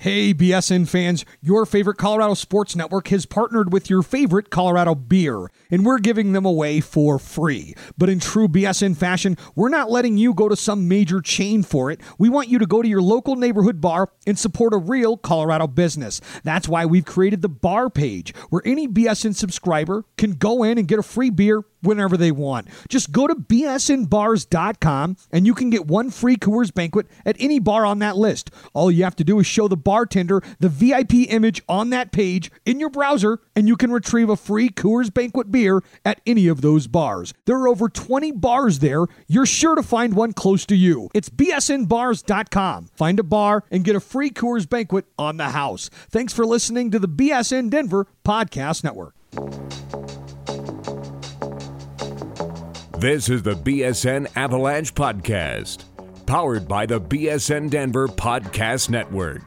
Hey, BSN fans, your favorite Colorado Sports Network has partnered with your favorite Colorado beer, and we're giving them away for free. But in true BSN fashion, we're not letting you go to some major chain for it. We want you to go to your local neighborhood bar and support a real Colorado business. That's why we've created the bar page, where any BSN subscriber can go in and get a free beer whenever they want. Just go to bsnbars.com and you can get one free Coors Banquet at any bar on that list. All you have to do is show the bartender the VIP image on that page in your browser, and you can retrieve a free Coors Banquet beer at any of those bars. There are over 20 bars there. You're sure to find one close to you. It's bsnbars.com. Find a bar and get a free Coors Banquet on the house. Thanks for listening to the BSN Denver Podcast Network. This is the BSN Avalanche Podcast, powered by the BSN Denver Podcast Network.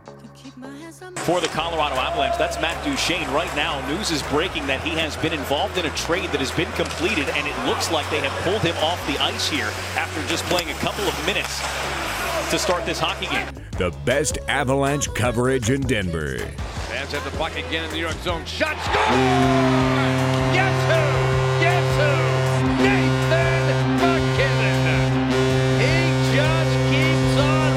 For the Colorado Avalanche, that's Matt Duchene. Right now, news is breaking that he has been involved in a trade that has been completed, and it looks like they have pulled him off the ice here after just playing a couple of minutes to start this hockey game. The best Avalanche coverage in Denver. Fans have the puck again in the New York zone. Shot, score! Guess who? Guess who? Nathan MacKinnon. He just keeps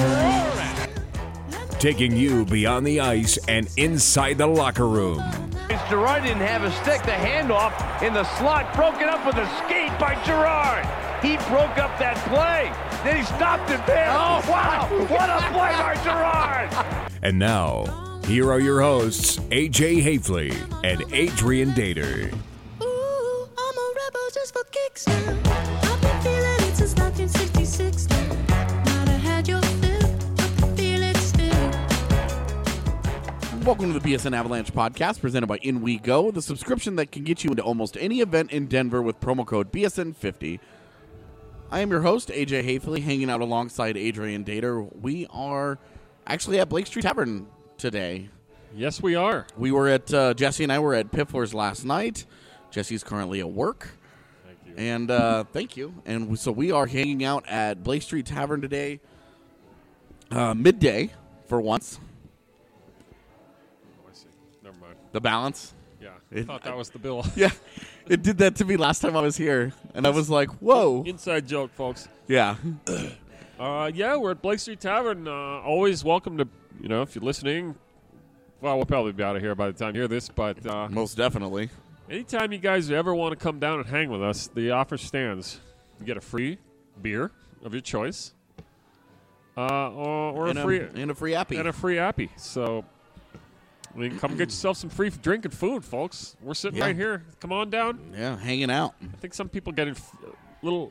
on roaring. Taking you beyond the ice and inside the locker room. Gerard didn't have a stick. The handoff in the slot broken up with a skate by Gerard. He broke up that play. Then he stopped it there. Oh, wow. What a play by Gerard. And now, here are your hosts, AJ Hafley and Adrian Dater. Ooh, I'm a rebel just for kicks now. I've been feeling it since 1966 now. Might have had your fill, I can feel it still. Welcome to the BSN Avalanche Podcast, presented by In We Go, the subscription that can get you into almost any event in Denver with promo code BSN50. I am your host, AJ Hafley, hanging out alongside Adrian Dater. We are actually at Blake Street Tavern today. Yes, we are. We were at, Jesse and I were at Piffler's last night. Jesse's currently at work. Thank you. And thank you. And so we are hanging out at Blake Street Tavern today, midday for once. Oh, I see. Never mind. The balance. Yeah, I thought that was the bill. Yeah, it did that to me last time I was here. And I was like, whoa. Inside joke, folks. Yeah. Yeah, we're at Blake Street Tavern. Always welcome to, if you're listening. Well, we'll probably be out of here by the time you hear this, but Most definitely. anytime you guys ever want to come down and hang with us, the offer stands. You get a free beer of your choice, or And a free a free appy. and a free appy. So, come get yourself some free drink and food, folks. We're sitting Yeah. right here. Come on down. Yeah, hanging out. I think some people get a little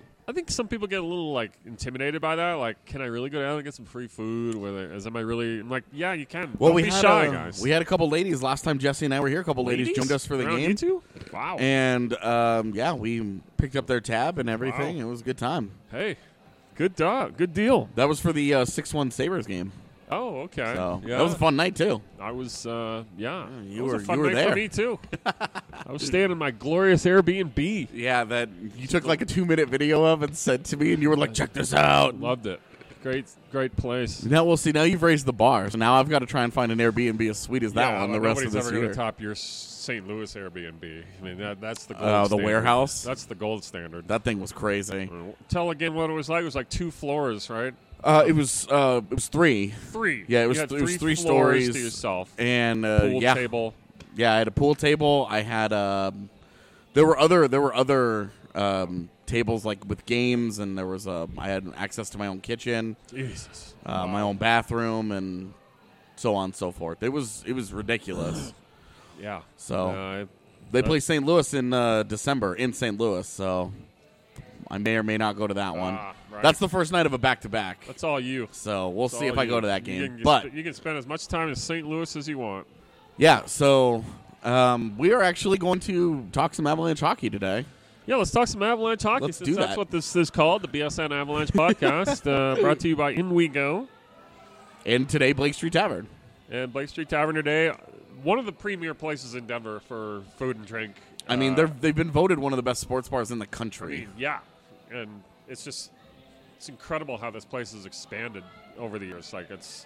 intimidated by that. Like, can I really go down and get some free food? Am I really? I'm like, yeah, you can. Well, Don't we be had shy, guys. We had a couple ladies last time Jesse and I were here. A couple ladies joined us for the Around game. You two? Wow. And we picked up their tab and everything. Wow. It was a good time. Hey, good dog. Good deal. That was for the 6-1 Sabres game. Oh, okay. So yeah. that was a fun night too. I was, you it was were- a fun you were night there. for me too. I was staying in my glorious Airbnb. Yeah, that you took like a 2-minute video of and sent to me, and you were like, "Check this out." Loved it. Great place. Now we'll see. Now you've raised the bar, so now I've got to try and find an Airbnb as sweet as that one the rest of nobody's this ever going year. to top your St. Louis Airbnb. I mean, that's the gold The standard. warehouse? That's the gold standard. That thing was crazy. Tell again what it was like. It was like 2 floors, right? It was 3. 3. Yeah, it You was had it was 3 floors stories to yourself. and Pool yeah, table. yeah. I had a pool table. I had there were other tables like with games, and there was I had access to my own kitchen, Jesus. my own bathroom, and so on and so forth. It was ridiculous. Yeah. So they play St. Louis in December in St. Louis, so I may or may not go to that one. Right. That's the first night of a back-to-back. That's all you. So we'll That's see if all I you. go to that You game. can you can spend as much time in St. Louis as you want. Yeah, so we are actually going to talk some Avalanche hockey today. Yeah, let's talk some Avalanche hockey. Let's Since do that's that. what this is called, the BSN Avalanche Podcast, brought to you by In We Go. And today, Blake Street Tavern. And Blake Street Tavern today, one of the premier places in Denver for food and drink. I mean, they've been voted one of the best sports bars in the country. Yeah, and it's incredible how this place has expanded over the years. Like, it's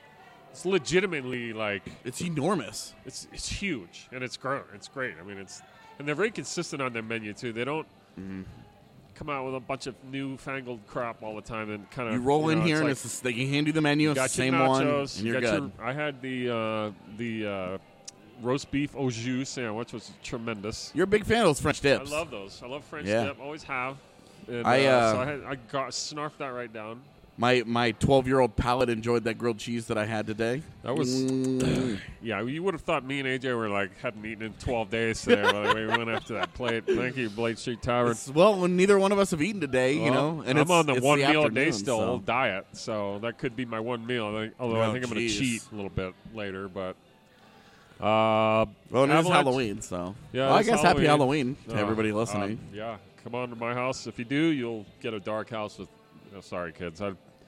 It's legitimately like It's enormous. it's huge and it's great. It's great. I mean, and they're very consistent on their menu too. They don't come out with a bunch of newfangled crap all the time and kind of You roll in here it's and like, it's just, they can hand you the menu. It's got the your same one, nachos, and you're got good. I had the roast beef au jus sandwich, which was tremendous. You're a big fan of those French dips. I love those. I love French Yeah. dip. Always have. And, I snarfed that right down. My 12-year-old palate enjoyed that grilled cheese that I had today. That was yeah. You would have thought me and AJ were like hadn't eaten in 12 days today. When we went after that plate. Thank you, Blake Street Tavern. Well, neither one of us have eaten today, you know. And I'm on the it's one meal a afternoon, day still so. diet, so that could be my one meal. Although I think I'm going to geez. cheat a little bit later, but. Well, it is Avalanche- Halloween, so. Yeah, well, I it's guess happy Halloween to Oh, everybody listening. yeah, come on to my house. If you do, you'll get a dark house with. Oh, sorry, kids.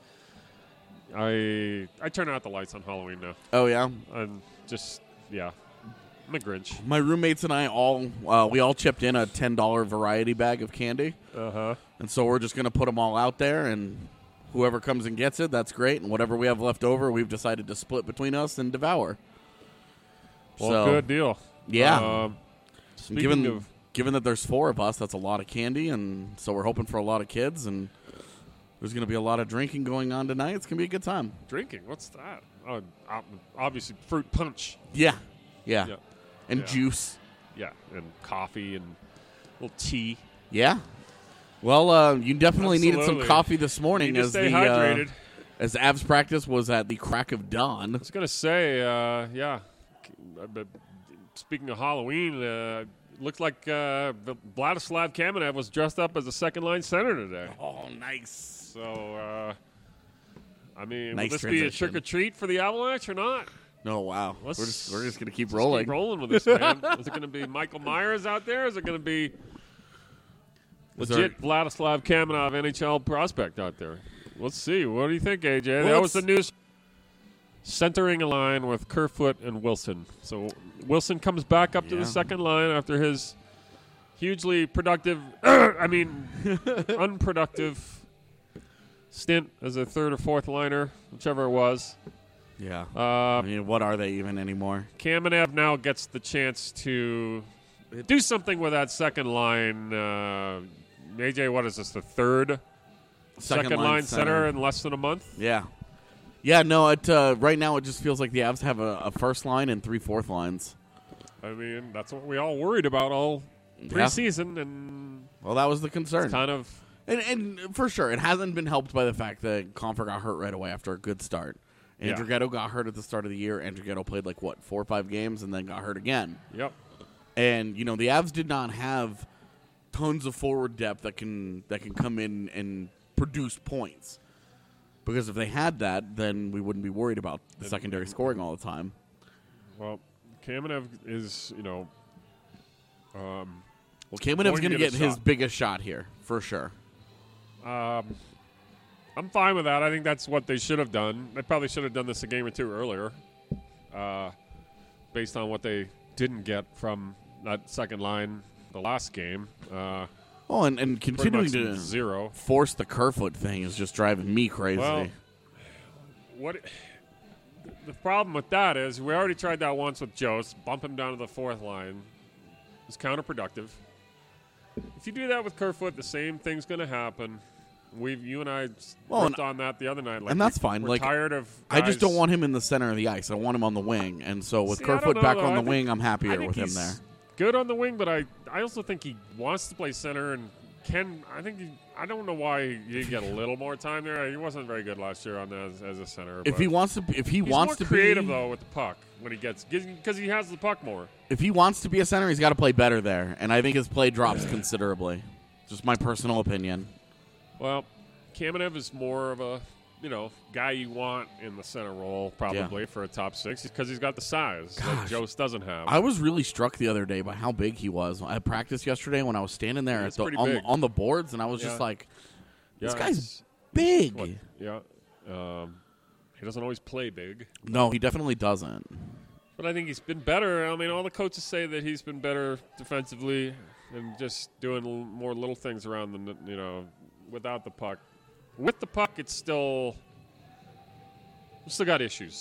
I turn out the lights on Halloween now. Oh, yeah? And just I'm a Grinch. My roommates and I we all chipped in a $10 variety bag of candy. And so we're just going to put them all out there, and whoever comes and gets it, that's great. And whatever we have left over, we've decided to split between us and devour. Well, So, good deal. Yeah. Speaking Given that there's 4 of us, that's a lot of candy, and so we're hoping for a lot of kids, and there's going to be a lot of drinking going on tonight. It's going to be a good time. drinking, what's that? Obviously, fruit punch. Yeah. Yeah. And Yeah. juice. Yeah, and coffee and a little tea. Yeah. Well, you definitely needed some Absolutely. coffee this morning Need to as stay the hydrated. as Avs practice was at the crack of dawn. I was going to say, but speaking of Halloween, looks like Vladislav Kamenev was dressed up as a second-line center today. Oh, nice. So, I mean, Nice will this be a transition. trick-or-treat for the Avalanche or not? Oh, wow. We're Let's- just going to keep Just rolling. Keep rolling with this, man. Is it going to be Michael Myers out there? Is it going to be Is legit Vladislav Kamenev NHL prospect out there? Let's see. What do you think, AJ? Well, That was the news. Centering a line with Kerfoot and Wilson. So Wilson comes back up to Yeah. the second line after his hugely productive, unproductive stint as a third or fourth liner, whichever it was. Yeah. I Uh, mean, what are they even anymore? Kamenev now gets the chance to do something with that second line. AJ, what is this, the third second line center in less than a month? Yeah. Yeah, no, right now it just feels like the Avs have a first line and 3 fourth lines. I mean, that's what we all worried about all preseason, and Well, that was the concern. it's kind of And for sure, it hasn't been helped by the fact that Confer got hurt right away after a good start. Yeah. Andrighetto got hurt at the start of the year. Andrighetto played 4 or 5 games and then got hurt again. yep. And the Avs did not have tons of forward depth that can come in and produce points. Because if they had that, then we wouldn't be worried about the secondary scoring all the time. Well, Kamenev is, Well, Kamenev's going to get his shot. biggest shot here, for sure. I'm fine with that. I think that's what they should have done. They probably should have done this a game or two earlier, based on what they didn't get from that second line the last game. Oh, and Pretty continuing much to zero. force the Kerfoot thing is just driving me crazy. Well, the problem with that is we already tried that once with Jost, bump him down to the fourth line. It's counterproductive. If you do that with Kerfoot, the same thing's going to happen. You and I ripped on that the other night. and that's fine. We're tired of I just guys- don't want him in the center of the ice. I want him on the wing. And so with See, I don't Kerfoot know, back though. on I the think- wing, I'm I happier think with him he's there. good on the wing, but I also think he wants to play center and can. I don't know why he didn't get a little more time there. He wasn't very good last year on that as a center. If but he wants to, if he he's wants more to creative be, though with the puck when he gets because he has the puck more. if he wants to be a center, he's got to play better there. And I think his play drops considerably. Just my personal opinion. Well, Kamenev is more of a guy you want in the center role probably for a top 6 because he's got the size that Gosh. Jost doesn't have. I was really struck the other day by how big he was. I practiced yesterday when I was standing there It's at pretty big. on the boards, and I was just Yeah. like, this Yeah, guy's it's- big. what- yeah. He doesn't always play big. No, he definitely doesn't. But I think he's been better. I mean, all the coaches say that he's been better defensively and just doing more little things around the, without the puck. With the puck, it's still got issues.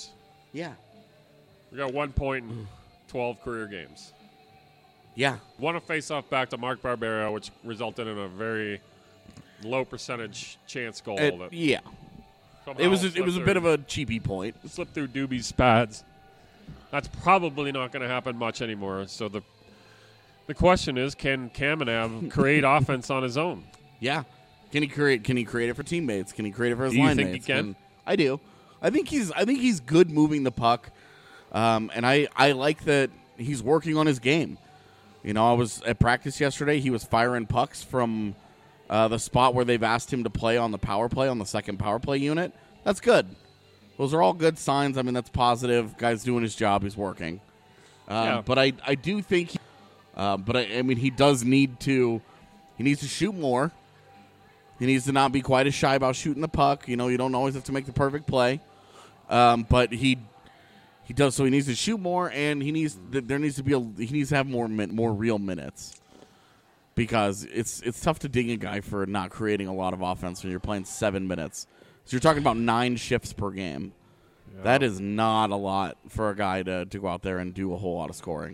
Yeah. We got 1 point in 12 career games. Yeah. Won a face-off back to Mark Barbera, which resulted in a very low percentage chance goal. Yeah. It was a bit of a cheapy point. Slipped through Doobie's pads. That's probably not going to happen much anymore. So the question is, can Kamenev create offense on his own? Yeah. Can he create it for teammates? Can he create it for his Do you line think mates? he can? I do. I think he's good moving the puck. And I like that he's working on his game. You know, I was at practice yesterday. He was firing pucks from the spot where they've asked him to play on the power play, on the second power play unit. That's good. Those are all good signs. I mean, that's positive. Guy's doing his job. He's working. But I do think I mean, he does need to shoot more. He needs to not be quite as shy about shooting the puck. You know, you don't always have to make the perfect play. But he does, so he needs to shoot more, and he needs to have more real minutes, because it's tough to ding a guy for not creating a lot of offense when you're playing 7 minutes. So you're talking about 9 shifts per game. Yeah. That is not a lot for a guy to go out there and do a whole lot of scoring.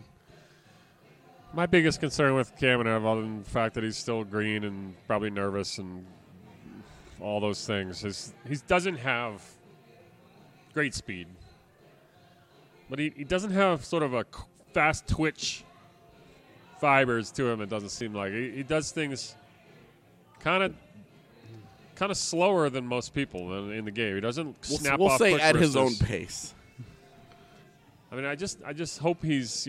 My biggest concern with Kamenev, other than the fact that he's still green and probably nervous and all those things, is he doesn't have great speed. But he doesn't have sort of a fast twitch fibers to him, it doesn't seem like. He does things kind of slower than most people in the game. He doesn't snap off quick at wristers. His own pace. I mean, I just hope he's,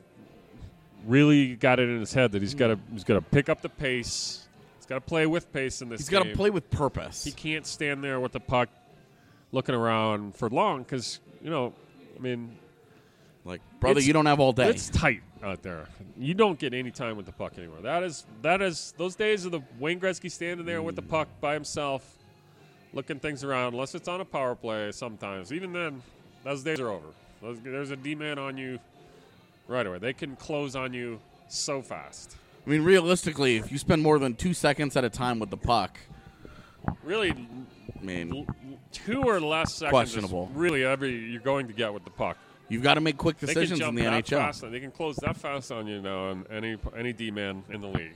really got it in his head that he's got to pick up the pace. He's got to play with pace in this game. He's got to play with purpose. He can't stand there with the puck looking around for long because, I mean, like, brother, you don't have all day. It's tight out there. You don't get any time with the puck anymore. That is those days of the Wayne Gretzky standing there with the puck by himself, looking things around, unless it's on a power play sometimes. Even then, those days are over. There's a D-man on you right away. They can close on you so fast. I mean, realistically, if you spend more than 2 seconds at a time with the puck, really, I mean, 2 or less seconds questionable. Is really you're going to get with the puck. You've got to make quick decisions in the NHL. Fast, they can close that fast on you now, on any D-man in the league.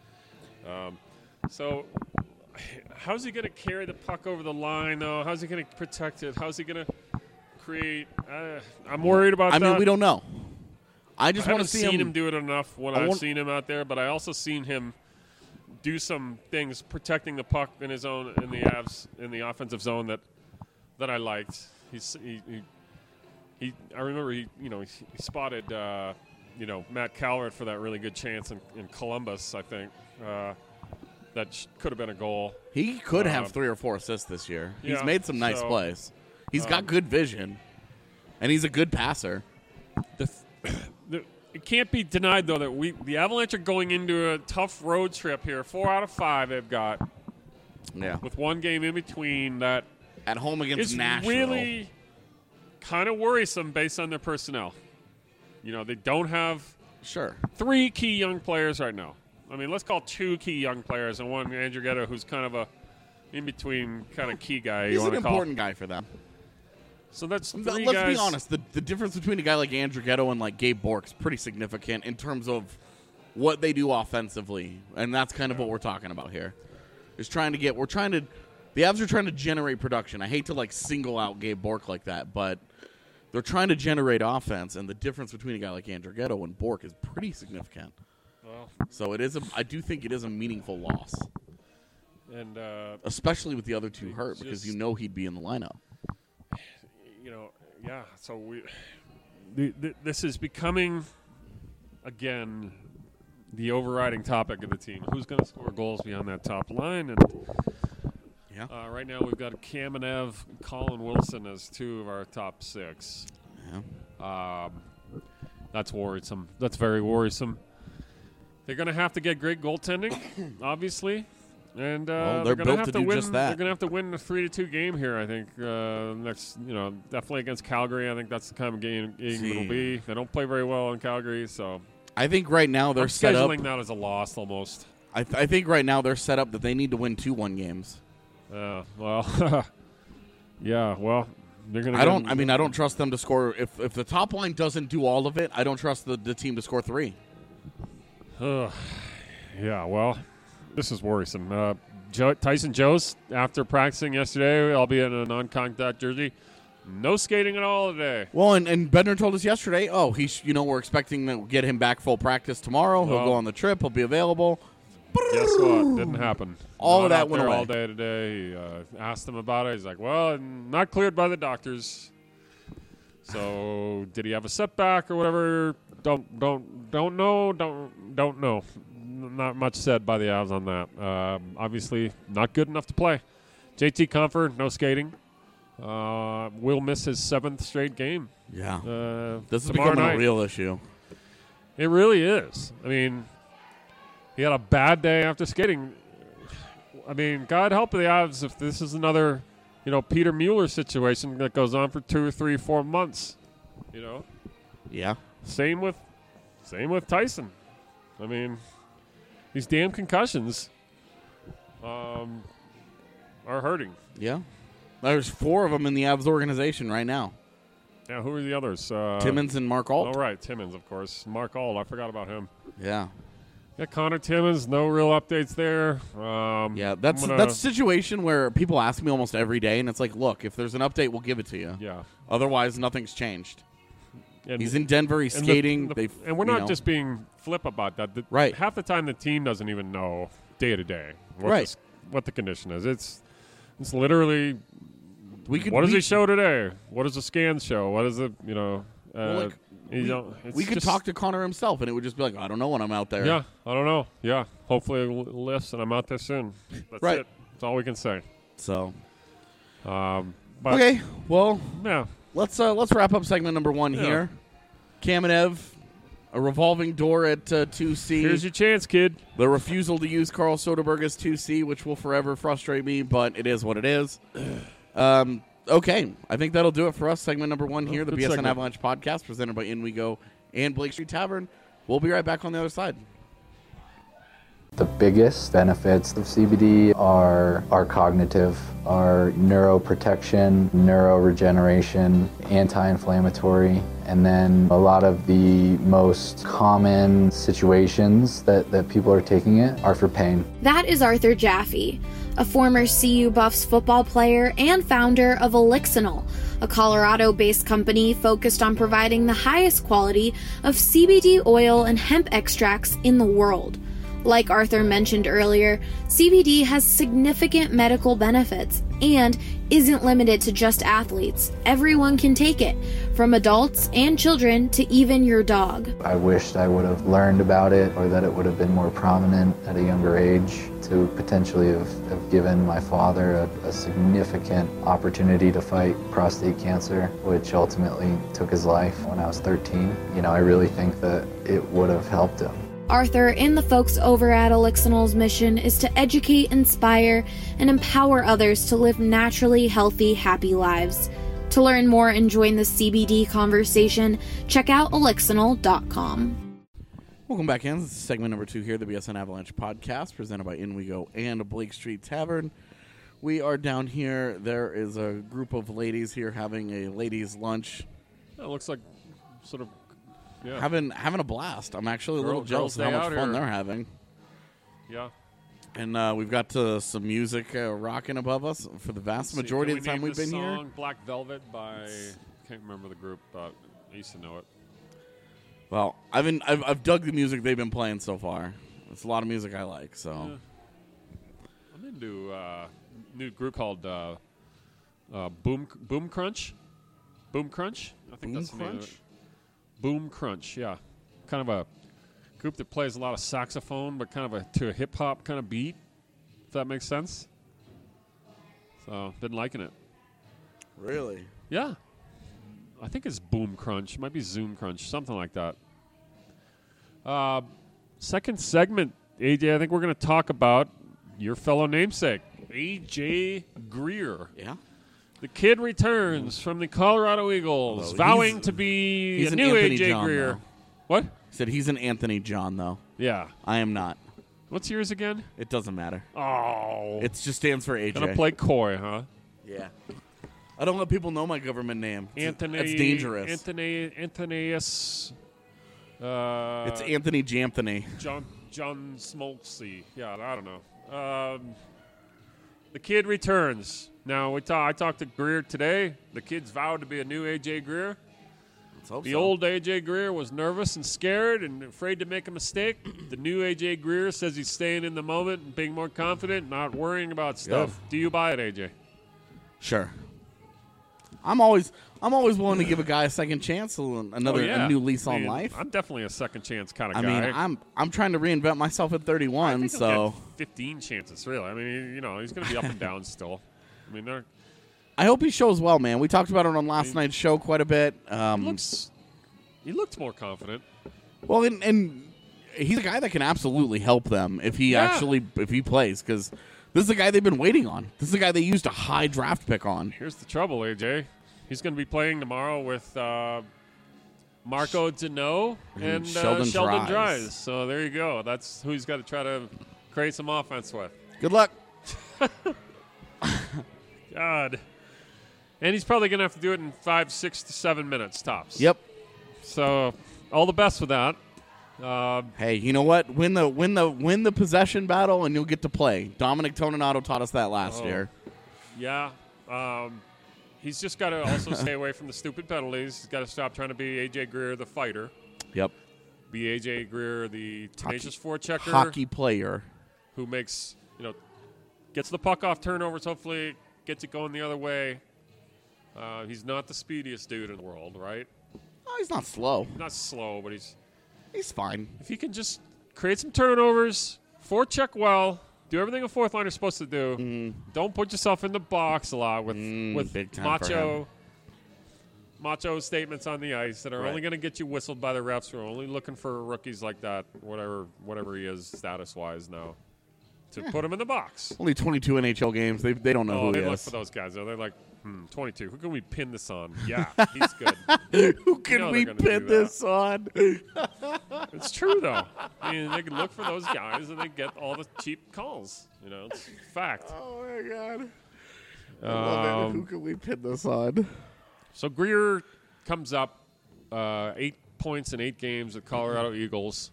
So, how's he going to carry the puck over the line, though? How's he going to protect it? How's he going to create? I'm worried about that. I mean, we don't know. I just want to see him do it enough when I've seen him out there, but I also seen him do some things protecting the puck in his own in the offensive zone that I liked. I remember he spotted Matt Calvert for that really good chance in Columbus, I think. That could have been a goal. He could have 3 or 4 assists this year. He's made some nice plays. He's got good vision, and he's a good passer. It can't be denied, though, that the Avalanche are going into a tough road trip here. 4 out of 5 they've got. Yeah. With one game in between that. At home against Nashville. It's really kind of worrisome based on their personnel. They don't have 3 key young players right now. I mean, let's call 2 key young players and one Andrew Gedda, who's kind of a in-between kind of key guy. He's an important guy for them. So that's 3 Let's guys. be honest. The difference between a guy like Andrew Gedda and like Gabe Bork's pretty significant in terms of what they do offensively, and that's kind of what we're talking about here. The Avs are trying to generate production. I hate to single out Gabe Bork like that, but they're trying to generate offense, and the difference between a guy like Andrew Gedda and Bork is pretty significant. Well, so I do think it is a meaningful loss, and especially with the other 2 hurt, because he'd be in the lineup. So this is becoming, again, the overriding topic of the team. Who's going to score goals beyond that top line? And right now we've got Kamenev, Colin Wilson as 2 of our top 6. Yeah. That's worrisome. That's very worrisome. They're going to have to get great goaltending, obviously. And they're built to do just that. They're going to have to win a 3-2 game here, I think. Next, definitely against Calgary. I think that's the kind of game it'll be. They don't play very well in Calgary, so I think right now they're set up. Scheduling that as a loss almost. I think right now they're set up that they need to win 2-1 games. Well, yeah. Well, They're gonna. I don't trust them to score. If the top line doesn't do all of it, I don't trust the team to score 3. Yeah, well, this is worrisome. Tyson Jost, after practicing yesterday, albeit in a non-contact jersey, no skating at all today. Well, and Bednar told us yesterday, we're expecting to get him back full practice tomorrow. He'll go on the trip. He'll be available. Guess what? Didn't happen. All Not of that out went there away. all day today. He asked him about it. He's like, well, not cleared by the doctors. So did he have a setback or whatever? Don't know. Don't know. Not much said by the Avs on that. Obviously, not good enough to play. JT Compher, no skating. Will miss his 7th straight game. Yeah. This is tomorrow becoming night. a real issue. It really is. I mean, he had a bad day after skating. I mean, God help the Avs if this is another, Peter Mueller situation that goes on for 2 or 3, 4 months. Yeah. Same with Tyson. I mean, these damn concussions are hurting. Yeah. There's 4 of them in the Avs organization right now. Yeah, who are the others? Timmins and Mark Alt. Oh, right, Timmins, of course. Mark Alt, I forgot about him. Yeah. Yeah, Connor Timmins, no real updates there. That's a situation where people ask me almost every day, and it's like, look, if there's an update, we'll give it to you. Yeah. Otherwise, nothing's changed. And he's in Denver. He's skating. And we're not just being flip about that. Right. Half the time, the team doesn't even know day to day what the condition is. It's literally what does he show today? What does the scans show? What is it? We could talk to Connor himself, and it would just be like, I don't know when I'm out there. Yeah, I don't know. Yeah, hopefully it lifts, and I'm out there soon. That's right. it. That's all we can say. So, okay. Well, yeah. Let's wrap up segment number 1 here. Kamenev, a revolving door at 2C. Here's your chance, kid. The refusal to use Carl Soderberg as 2C, which will forever frustrate me, but it is what it is. Okay, I think that'll do it for us. Segment number 1 here, the BSN segment. Avalanche podcast, presented by In We Go and Blake Street Tavern. We'll be right back on the other side. The biggest benefits of CBD are cognitive, are neuroprotection, neuroregeneration, anti-inflammatory, and then a lot of the most common situations that people are taking it are for pain. That is Arthur Jaffe, a former CU Buffs football player and founder of Elixinol, a Colorado-based company focused on providing the highest quality of CBD oil and hemp extracts in the world. Like Arthur mentioned earlier, CBD has significant medical benefits and isn't limited to just athletes. Everyone can take it, from adults and children to even your dog. I wished I would have learned about it, or that it would have been more prominent at a younger age, to potentially have given my father a significant opportunity to fight prostate cancer, which ultimately took his life when I was 13. I really think that it would have helped him. Arthur and the folks over at Elixinol's mission is to educate, inspire, and empower others to live naturally healthy, happy lives. To learn more and join the CBD conversation, check out elixinol.com. Welcome back in. This is segment number 2 here, the BSN Avalanche podcast, presented by In We Go and Blake Street Tavern. We are down here. There is a group of ladies here having a ladies' lunch. It looks like sort of... Yeah. Having a blast. I'm actually a little jealous of how much fun they're having. Yeah. And we've got some music rocking above us for the vast majority of the time we've been here. Black Velvet by, can't remember the group, but I used to know it. Well, I've dug the music they've been playing so far. It's a lot of music I like. So I'm into a new group called Boom Crunch. Boom Crunch. I think that's the name of it. Boom Crunch, yeah. Kind of a group that plays a lot of saxophone, but kind of to a hip-hop kind of beat, if that makes sense. So, been liking it. Really? Yeah. I think it's Boom Crunch. It might be Zoom Crunch, something like that. Second segment, AJ, I think we're going to talk about your fellow namesake, AJ Greer. Yeah. The kid returns from the Colorado Eagles, vowing to be a new AJ Greer. Though. What? He said he's an Anthony John, though. Yeah. I am not. What's yours again? It doesn't matter. Oh. It just stands for AJ. Gonna play coy, huh? Yeah. I don't let people know my government name. Anthony. That's dangerous. Antonius. It's Anthony Janthony. John Smoltzy. Yeah, I don't know. The kid returns. Now, I talked to Greer today. The kid's vowed to be a new A.J. Greer. Let's hope The so. old A.J. Greer was nervous and scared and afraid to make a mistake. The new A.J. Greer says he's staying in the moment and being more confident, not worrying about stuff. Do you buy it, A.J.? Sure. I'm always willing to give a guy a second chance, a new lease on life. I'm definitely a second chance kind of I guy. mean, I'm trying to reinvent myself at 31, I think so he'll get 15 chances, really. I mean, he's going to be up and down still. I mean, I hope he shows well, man. We talked about it on last night's show quite a bit. he looked more confident. Well, and he's a guy that can absolutely help them if he plays, because this is a guy they've been waiting on. This is a guy they used a high draft pick on. Here's the trouble, AJ. He's going to be playing tomorrow with Marco Deneau and Sheldon Dries. So there you go. That's who he's got to try to create some offense with. Good luck. God. And he's probably going to have to do it in 5, 6 to 7 minutes tops. Yep. So all the best with that. Hey, you know what? Win the possession battle, and you'll get to play. Dominic Toninato taught us that last year. Yeah. He's just got to also stay away from the stupid penalties. He's got to stop trying to be A.J. Greer, the fighter. Yep. Be A.J. Greer, the tenacious forechecker. Hockey player. Who makes, gets the puck off turnovers, hopefully gets it going the other way. He's not the speediest dude in the world, right? Oh, he's not slow. Not slow, but he's fine. If he can just create some turnovers, forecheck well, do everything a fourth liner is supposed to do. Don't put yourself in the box a lot with macho statements on the ice that are only going to get you whistled by the refs. We're only looking for rookies like that, whatever he is status-wise now, to put him in the box. Only 22 NHL games. They don't know who he they is. look for those guys, though. They're like, 22. Who can we pin this on? Yeah, he's good. Who can we pin this on? It's true, though. I mean, they can look for those guys, and they get all the cheap calls. It's fact. Oh, my God. I love it. Who can we pin this on? So Greer comes up 8 points in 8 games with Colorado Eagles.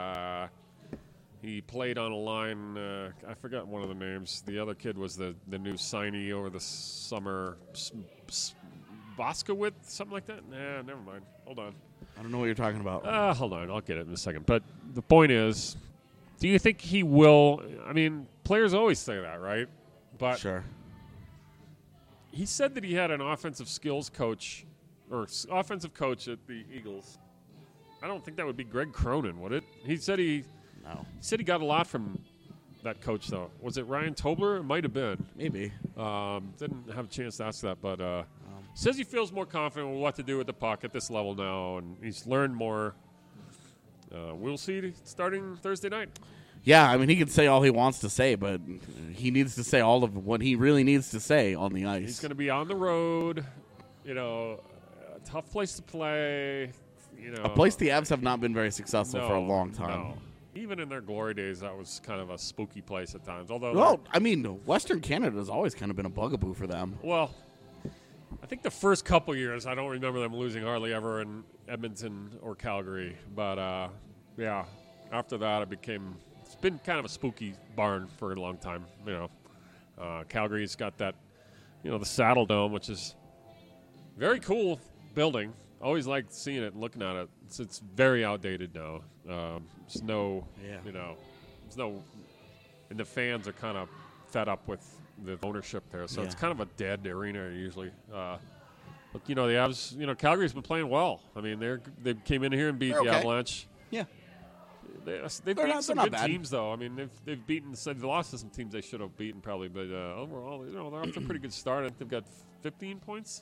He played on a line. I forgot one of the names. The other kid was the new signee over the summer. Boskowitz, something like that? Nah, never mind. Hold on. I don't know what you're talking about. Hold on. I'll get it in a second. But the point is, do you think he will? I mean, players always say that, right? But sure. He said that he had an offensive skills coach or offensive coach at the Eagles. I don't think that would be Greg Cronin, would it? He said he got a lot from that coach, though. Was it Ryan Tobler? It might have been. Maybe. Didn't have a chance to ask that, but says he feels more confident with what to do with the puck at this level now, and he's learned more. We'll see starting Thursday night. Yeah, I mean, he can say all he wants to say, but he needs to say all of what he really needs to say on the ice. He's going to be on the road, a tough place to play. A place the Avs have not been very successful for a long time. No. Even in their glory days, that was kind of a spooky place at times. Although, well, I mean, Western Canada has always kind of been a bugaboo for them. Well, I think the first couple years, I don't remember them losing hardly ever in Edmonton or Calgary. But, yeah, after that, it's been kind of a spooky barn for a long time. Calgary's got that, the Saddle Dome, which is very cool building. Always liked seeing it and looking at it. It's very outdated now. There's no, and the fans are kind of fed up with the ownership there. So it's kind of a dead arena usually. But the Avs, Calgary's been playing well. I mean, they came in here and beat the Avalanche. Yeah. They've beaten some good teams, though. I mean, they've lost to some teams they should have beaten probably, but overall, they're off to a pretty good start. I think they've got 15 points.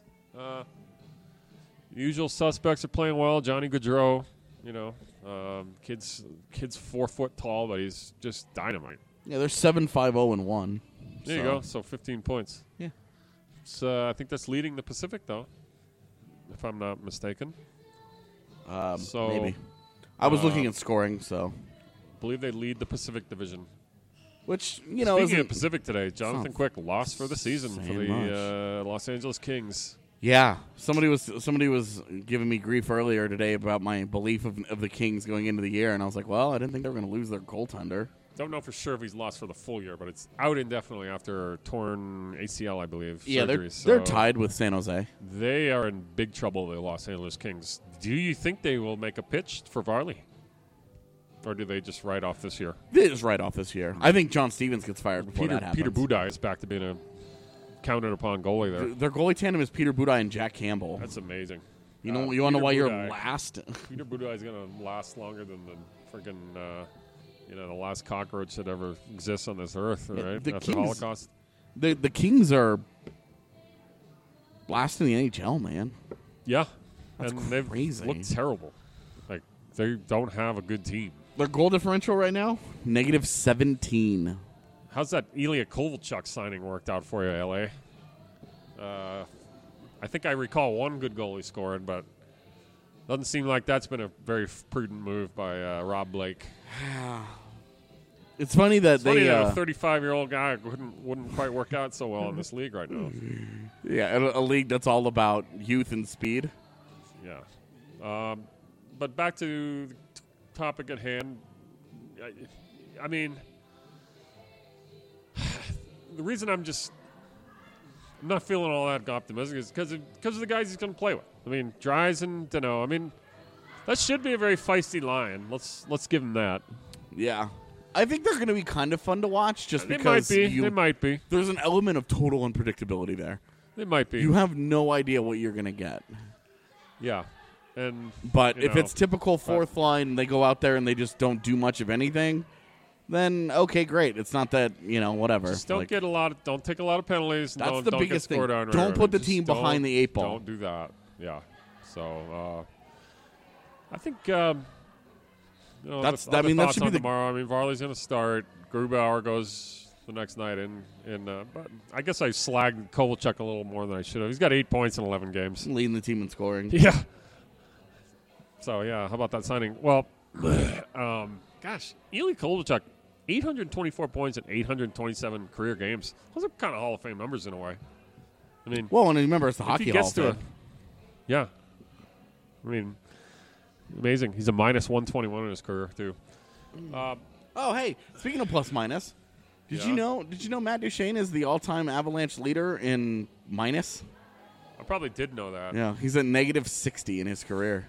Usual suspects are playing well. Johnny Gaudreau, kid's 4 foot tall, but he's just dynamite. Yeah, they're 7-5-0-1. There you go. So 15 points. Yeah. I think that's leading the Pacific, though, if I'm not mistaken. Maybe. I was looking at scoring, so. I believe they lead the Pacific Division. Which, you know, Speaking isn't of Pacific today, Jonathan not Quick lost for the season for saying the Los Angeles Kings. Yeah, somebody was giving me grief earlier today about my belief of the Kings going into the year, and I was like, well, I didn't think they were going to lose their goaltender. Don't know for sure if he's lost for the full year, but it's out indefinitely after torn ACL, I believe. Yeah, surgery, they're tied with San Jose. They are in big trouble, the Los Angeles Kings. Do you think they will make a pitch for Varley? Or do they just write off this year? They just write off this year. I think John Stevens gets fired before that happens. Peter Budaj is back to being a counted-upon goalie there. Their goalie tandem is Peter Budaj and Jack Campbell. That's amazing. You want to know why you're last? Peter Budaj is going to last longer than the freaking the last cockroach that ever exists on this earth, right? The After the Kings, Holocaust. The Kings are last in the NHL, man. Yeah, That's and they've crazy. looked terrible. Like they don't have a good team. Their goal differential right now, -17. How's that Ilya Kovalchuk signing worked out for you, LA? I think I recall one good goal he scored, but doesn't seem like that's been a very prudent move by Rob Blake. It's funny that Funny that a 35-year-old guy wouldn't quite work out so well in this league right now. Yeah, a league that's all about youth and speed. Yeah. But back to the topic at hand. I mean, the reason I'm not feeling all that optimistic is because of the guys he's going to play with. I mean, Dries and Danault. I mean, that should be a very feisty line. Let's give him that. Yeah. I think they're going to be kind of fun to watch just because they might be. There's an element of total unpredictability there. They might be. You have no idea what you're going to get. Yeah. But if it's typical fourth line, they go out there and they just don't do much of anything, then okay, great. It's not that, whatever. Just don't take a lot of penalties. That's don't the get biggest thing. scored on. Don't put the Just team behind the 8 ball. Don't do that. Yeah. So I think that should be tomorrow. I mean, Varley's going to start. Grubauer goes the next night but I guess I slagged Kovalchuk a little more than I should have. He's got 8 points in 11 games. Leading the team in scoring. Yeah. So, yeah, how about that signing? Well, gosh, Ilya Kovalchuk, 824 points in 827 career games. Those are kind of Hall of Fame numbers in a way. I mean, well, and remember, it's the Hockey Hall of Fame. Yeah. I mean, amazing. He's a -121 in his career, too. Hey, speaking of plus minus, did you know Matt Duchene is the all-time Avalanche leader in minus? I probably did know that. Yeah, he's at -60 in his career.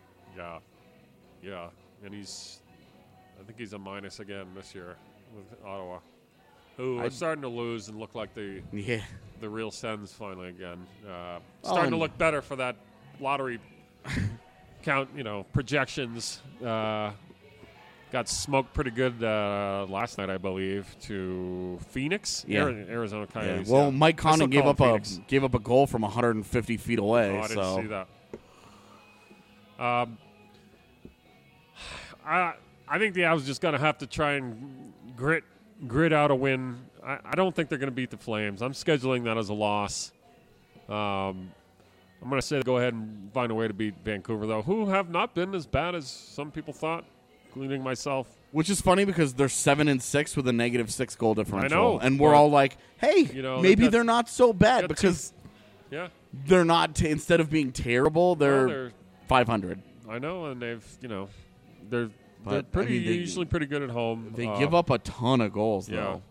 Yeah, and I think he's a minus again this year with Ottawa, who are starting to lose and look like the real Sens finally again. Starting to look better for that lottery count, projections. Got smoked pretty good last night, I believe, to Phoenix, Arizona Coyotes. Yeah. Well, Mike Condon gave up a goal from 150 feet away. Oh, I didn't see that. I think the Avs just going to have to try and grit out a win. I don't think they're going to beat the Flames. I'm scheduling that as a loss. I'm going to say go ahead and find a way to beat Vancouver, though, who have not been as bad as some people thought, including myself. Which is funny because they're 7-6 with a -6 goal differential. I know. And we're all like, hey, maybe they're not so bad because they're not, instead of being terrible, they're 500. I know, and they're usually pretty good at home. They give up a ton of goals, though.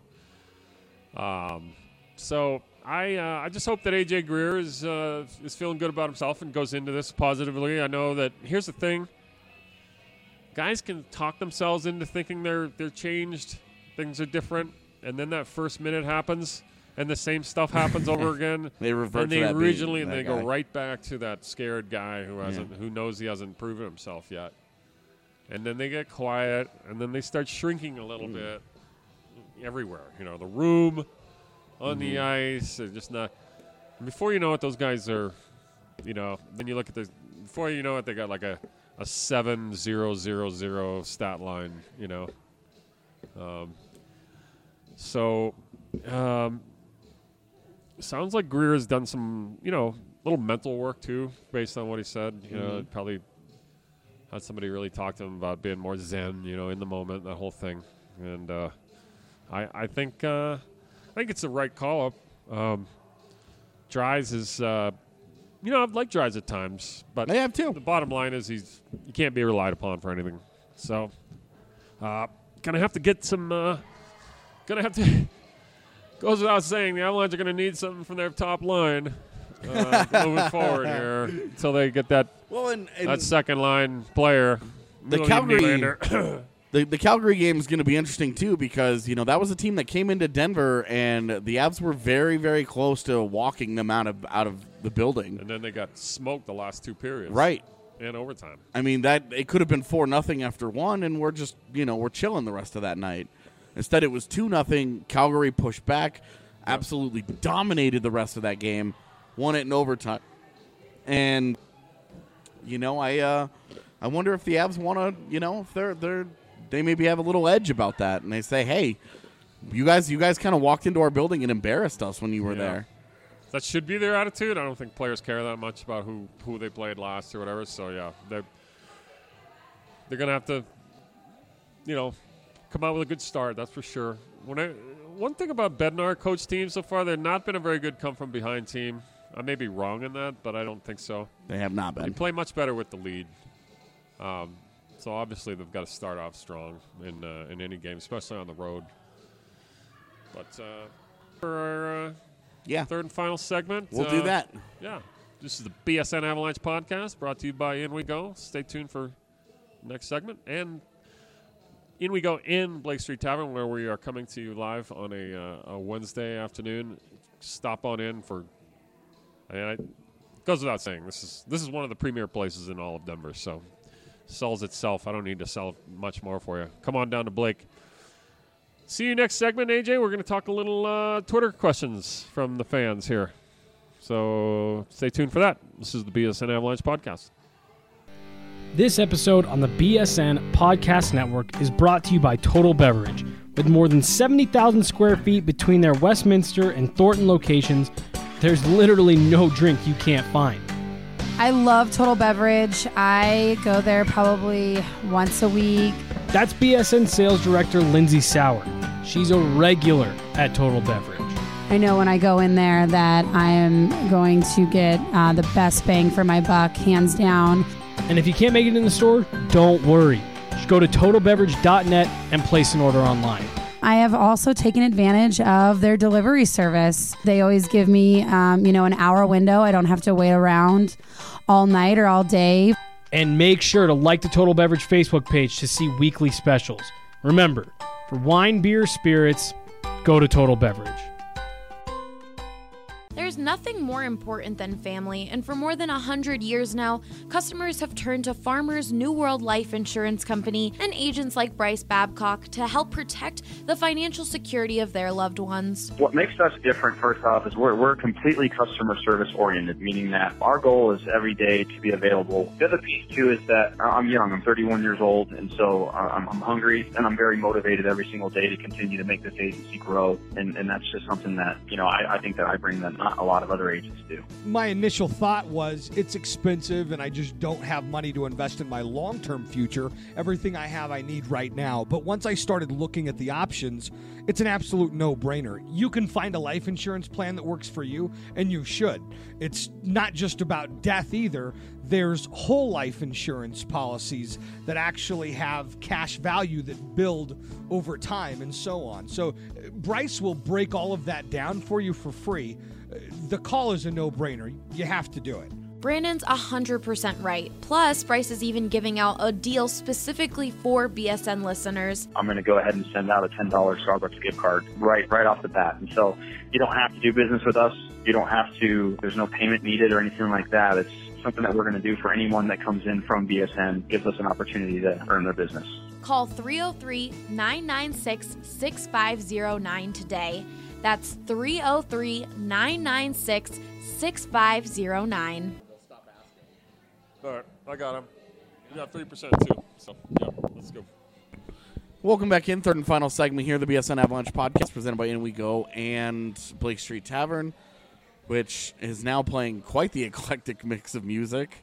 So I just hope that AJ Greer is feeling good about himself and goes into this positively. I know that here's the thing: guys can talk themselves into thinking they're changed, things are different, and then that first minute happens, and the same stuff happens over again. They revert and to that originally, and they guy. go right back to that scared guy who knows he hasn't proven himself yet. And then they get quiet, and then they start shrinking a little bit everywhere. The room, on the ice, they're just not. And before you know it, those guys are, then you look at before you know it, they got like a 7-0-0-0 stat line, sounds like Greer has done some, little mental work too, based on what he said. Probably had somebody really talk to him about being more zen, in the moment, that whole thing. And I think it's the right call up. Dries is, I've liked Dries at times, but I have too. The bottom line is he can't be relied upon for anything. So, gonna have to get some. Goes without saying, the Avalanche are gonna need something from their top line moving forward here until they get that that second line player. The Calgary. The Calgary game is going to be interesting, too, because, that was a team that came into Denver, and the Avs were very, very close to walking them out of the building. And then they got smoked the last 2 periods. Right. And overtime. I mean, it could have been 4-0 after one, and we're just, we're chilling the rest of that night. Instead, it was 2-0. Calgary pushed back, absolutely dominated the rest of that game, won it in overtime. And, I wonder if the Avs want to, if they maybe have a little edge about that, and they say, "Hey, you guys kind of walked into our building and embarrassed us when you were there." That should be their attitude. I don't think players care that much about who they played last or whatever. So yeah, they're gonna have to, come out with a good start. That's for sure. One thing about Bednar coach teams so far, they've not been a very good come from behind team. I may be wrong in that, but I don't think so. They have not been. They play much better with the lead. So obviously they've got to start off strong in any game, especially on the road. But for our third and final segment, we'll do that. Yeah, this is the BSN Avalanche podcast brought to you by In We Go. Stay tuned for next segment, and In We Go in Blake Street Tavern, where we are coming to you live on a Wednesday afternoon. Stop on in for. It goes without saying, this is one of the premier places in all of Denver. So. Sells itself. I don't need to sell much more for you. Come on down to Blake. See you next segment, AJ. We're going to talk a little Twitter questions from the fans here. So stay tuned for that. This is the BSN Avalanche podcast. This episode on the BSN Podcast Network is brought to you by Total Beverage. With more than 70,000 square feet between their Westminster and Thornton locations, there's literally no drink you can't find. I love Total Beverage. I go there probably once a week. That's BSN Sales Director Lindsay Sauer. She's a regular at Total Beverage. I know when I go in there that I am going to get the best bang for my buck, hands down. And if you can't make it in the store, don't worry. Just go to totalbeverage.net and place an order online. I have also taken advantage of their delivery service. They always give me, an hour window. I don't have to wait around all night or all day. And make sure to like the Total Beverage Facebook page to see weekly specials. Remember, for wine, beer, spirits, go to Total Beverage. There's nothing more important than family, and for more than 100 years now, customers have turned to Farmers New World Life Insurance Company and agents like Bryce Babcock to help protect the financial security of their loved ones. What makes us different, first off, is we're completely customer service oriented, meaning that our goal is every day to be available. The other piece, too, is that I'm young. I'm 31 years old, and so I'm hungry, and I'm very motivated every single day to continue to make this agency grow, and that's just something that, I think that I bring that not a lot of other agents do. My initial thought was it's expensive and I just don't have money to invest in my long-term future. Everything I have I need right now. But once I started looking at the options, it's an absolute no-brainer. You can find a life insurance plan that works for you, and you should. It's not just about death either. There's whole life insurance policies that actually have cash value that build over time and so on. So Bryce will break all of that down for you for free. The call is a no-brainer. You have to do it. Brandon's 100% right. Plus, Bryce is even giving out a deal specifically for BSN listeners. I'm going to go ahead and send out a $10 Starbucks gift card right off the bat. And so you don't have to do business with us. You don't have to, there's no payment needed or anything like that. It's something that we're going to do for anyone that comes in from BSN, gives us an opportunity to earn their business. Call 303-996-6509 today. That's 303-996-6509. All right, I got him. You got 3% too. So, yeah, let's go. Welcome back in. Third and final segment here, the BSN Avalanche podcast presented by In We Go and Blake Street Tavern, which is now playing quite the eclectic mix of music.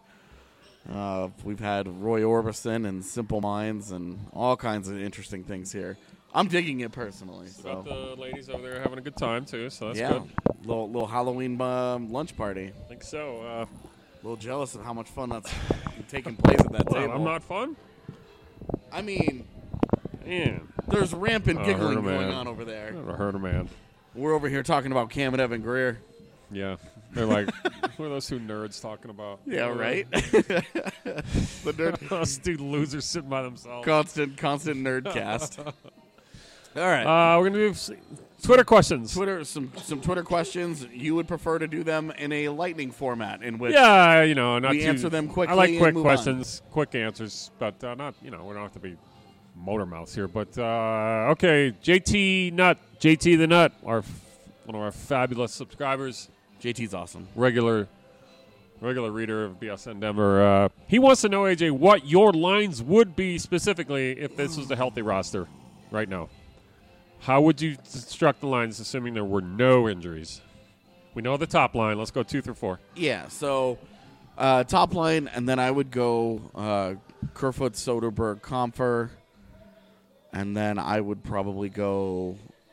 We've had Roy Orbison and Simple Minds and all kinds of interesting things here. I'm digging it personally. Got So the ladies over there having a good time too, so that's yeah, good. little Halloween lunch party. I think so. A little jealous of how much fun that's taking place at that table. I'm not fun. I mean, Man, there's rampant giggling hurt a man. going on over there. Never heard a man. We're over here talking about Cam and Evan Greer. Yeah, they're like, what are those two nerds talking about? Yeah, right. The nerd, those two losers sitting by themselves. constant nerdcast. All right, we're gonna do Twitter questions. some Twitter questions. You would prefer to do them in a lightning format, in which Yeah, not we too, answer them quickly. I like and quick move questions, quick answers, but not. We don't have to be motor mouths here. But okay, JT the Nut, one of our fabulous subscribers. JT's awesome. Regular reader of BSN Denver. He wants to know, AJ, what your lines would be specifically if this was a healthy roster right now. How would you construct the lines, assuming there were no injuries? We know the top line. Let's go 2 through 4. Yeah, so top line, and then I would go Kerfoot, Soderberg, Comfer, and then I would probably go.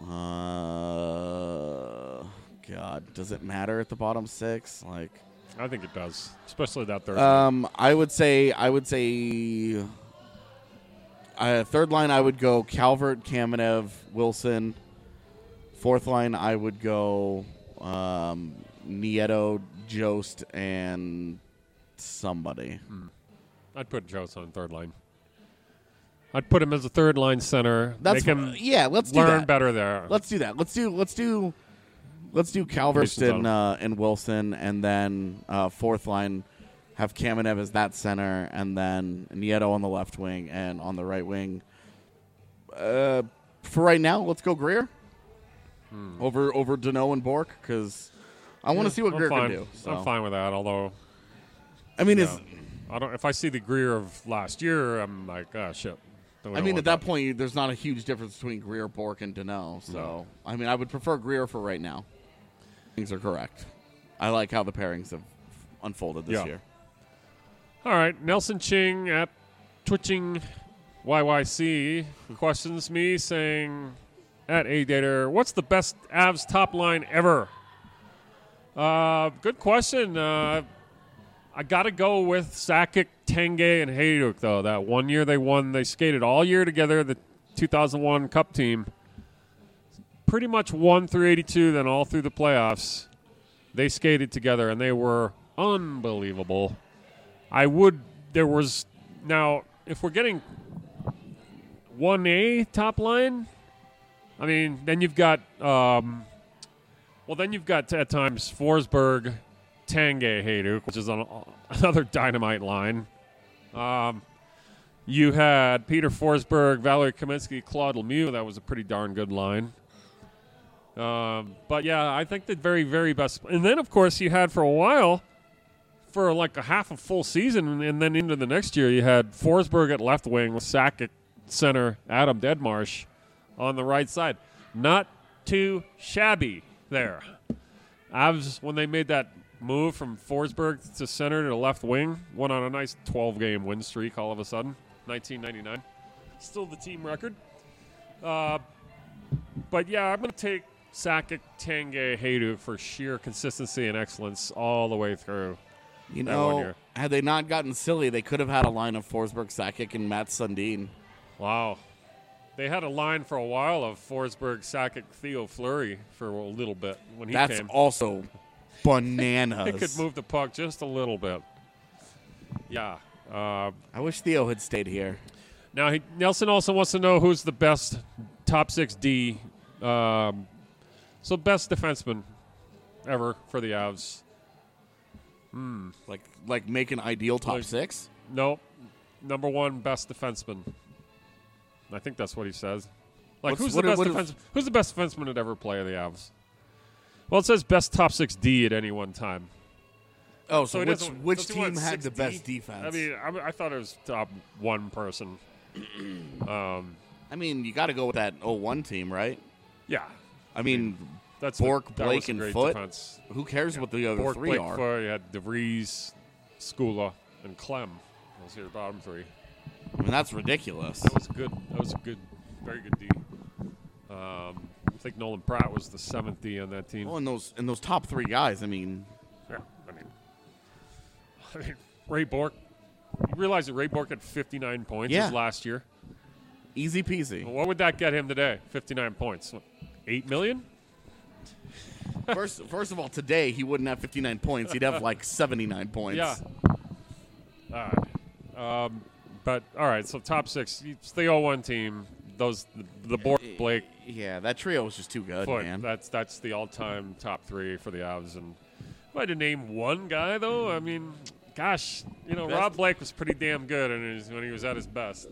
God, does it matter at the bottom 6? Like, I think it does, especially that third. I would say third line I would go Calvert, Kamenev, Wilson. Fourth line I would go Nieto, Jost, and somebody. I'd put Jost on third line. I'd put him as a third line center. That's make him let's do learn that. better there. Let's do that. Let's do Calvert and Wilson, and then fourth line have Kamenev as that center, and then Nieto on the left wing and on the right wing. For right now, let's go Greer over Danault and Bork, because I want to see what Greer can do. So. I'm fine with that. Although, I mean, if I see the Greer of last year, I'm like, oh shit. I mean, at that point, there's not a huge difference between Greer, Bork, and Danault. So, No. I mean, I would prefer Greer for right now. Things are correct. I like how the pairings have unfolded this year. All right, Nelson Ching at Twitching YYC questions me saying, at A-Dater, what's the best Avs top line ever? Good question. I got to go with Sakic, Tanguay, and Hayduk, though. That one year they skated all year together, the 2001 Cup team. Pretty much 1 through 82, then all through the playoffs. They skated together, and they were unbelievable. Now, if we're getting 1A top line, I mean, then you've got, at times Forsberg, Tanguay, Hayduk, which is another dynamite line. You had Peter Forsberg, Valerie Kaminsky, Claude Lemieux. That was a pretty darn good line. But, yeah, I think the very, very best. And then, of course, you had for a while, for like a half a full season, and then into the next year, you had Forsberg at left wing with Sakic center, Adam Deadmarsh on the right side. Not too shabby there. Avs, when they made that move from Forsberg to center to left wing, went on a nice 12-game win streak all of a sudden, 1999. Still the team record. But, yeah, I'm going to take Sakic, Tanguay, Hayduk for sheer consistency and excellence all the way through. You know, had they not gotten silly, they could have had a line of Forsberg, Sakic, and Matt Sundin. Wow. They had a line for a while of Forsberg, Sakic, Theo Fleury for a little bit when he came. That's also bananas. He could move the puck just a little bit. Yeah. I wish Theo had stayed here. Now, Nelson also wants to know who's the best top 6D. So best defenseman ever for the Avs. Like make an ideal top 6? Nope. Number 1 best defenseman. I think that's what he says. Like, who's the best defenseman to ever play the Avs? Well, it says best top 6D at any one time. Oh, so which team had the best defense? I mean, I thought it was top 1 person. I mean, you got to go with that 01 team, right? Yeah. I mean, that's Bork, Blake, and Foote. Defense. Who cares what the other Bork, 3 Blake, are? Foote, you had DeVries, Skula, and Clem. Those are your bottom 3. I mean, that's ridiculous. That was good. That was a good, very good D. I think Nolan Pratt was the 7th D on that team. Well, and those top 3 guys, I mean. Yeah, I mean, Ray Bork. You realize that Ray Bork had 59 points his last year? Easy peasy. What would that get him today? 59 points. What, $8 million? First of all, today he wouldn't have 59 points. He'd have like 79 points. Yeah. But all right, so top 6. It's the 0-1 team. The Bork, Blake. Yeah, that trio was just too good, man. That's the all-time top 3 for the Avs. And if I had to name one guy, though, I mean, gosh, Rob Blake was pretty damn good when he was at his best.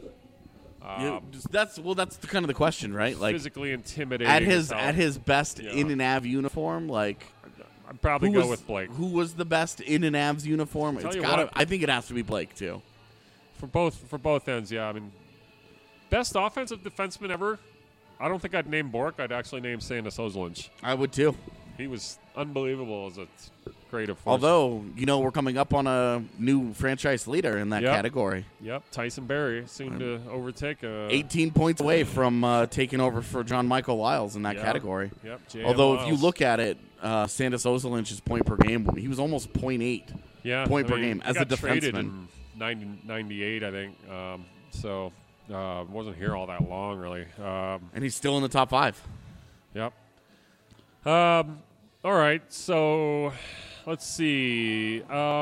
That's kind of the question, right? Like physically intimidating. At his best in an Av uniform, like I'd probably go with Blake. Who was the best in an Avs uniform? I think it has to be Blake too. For both ends, yeah. I mean, best offensive defenseman ever. I don't think I'd name Bork. I'd actually name Sandis Ozolinsh. I would too. He was unbelievable as a creative force. Although, we're coming up on a new franchise leader in that category. Yep, Tyson Barrie soon to overtake. 18 points away from taking over for John Michael Wiles in that category. Yep. Although, if you look at it, Sandis Ozolinsh's point per game, he was almost 0.8 point per game as a defenseman. In 98, I think. So wasn't here all that long, really. And he's still in the top 5. Yep. All right, so let's see.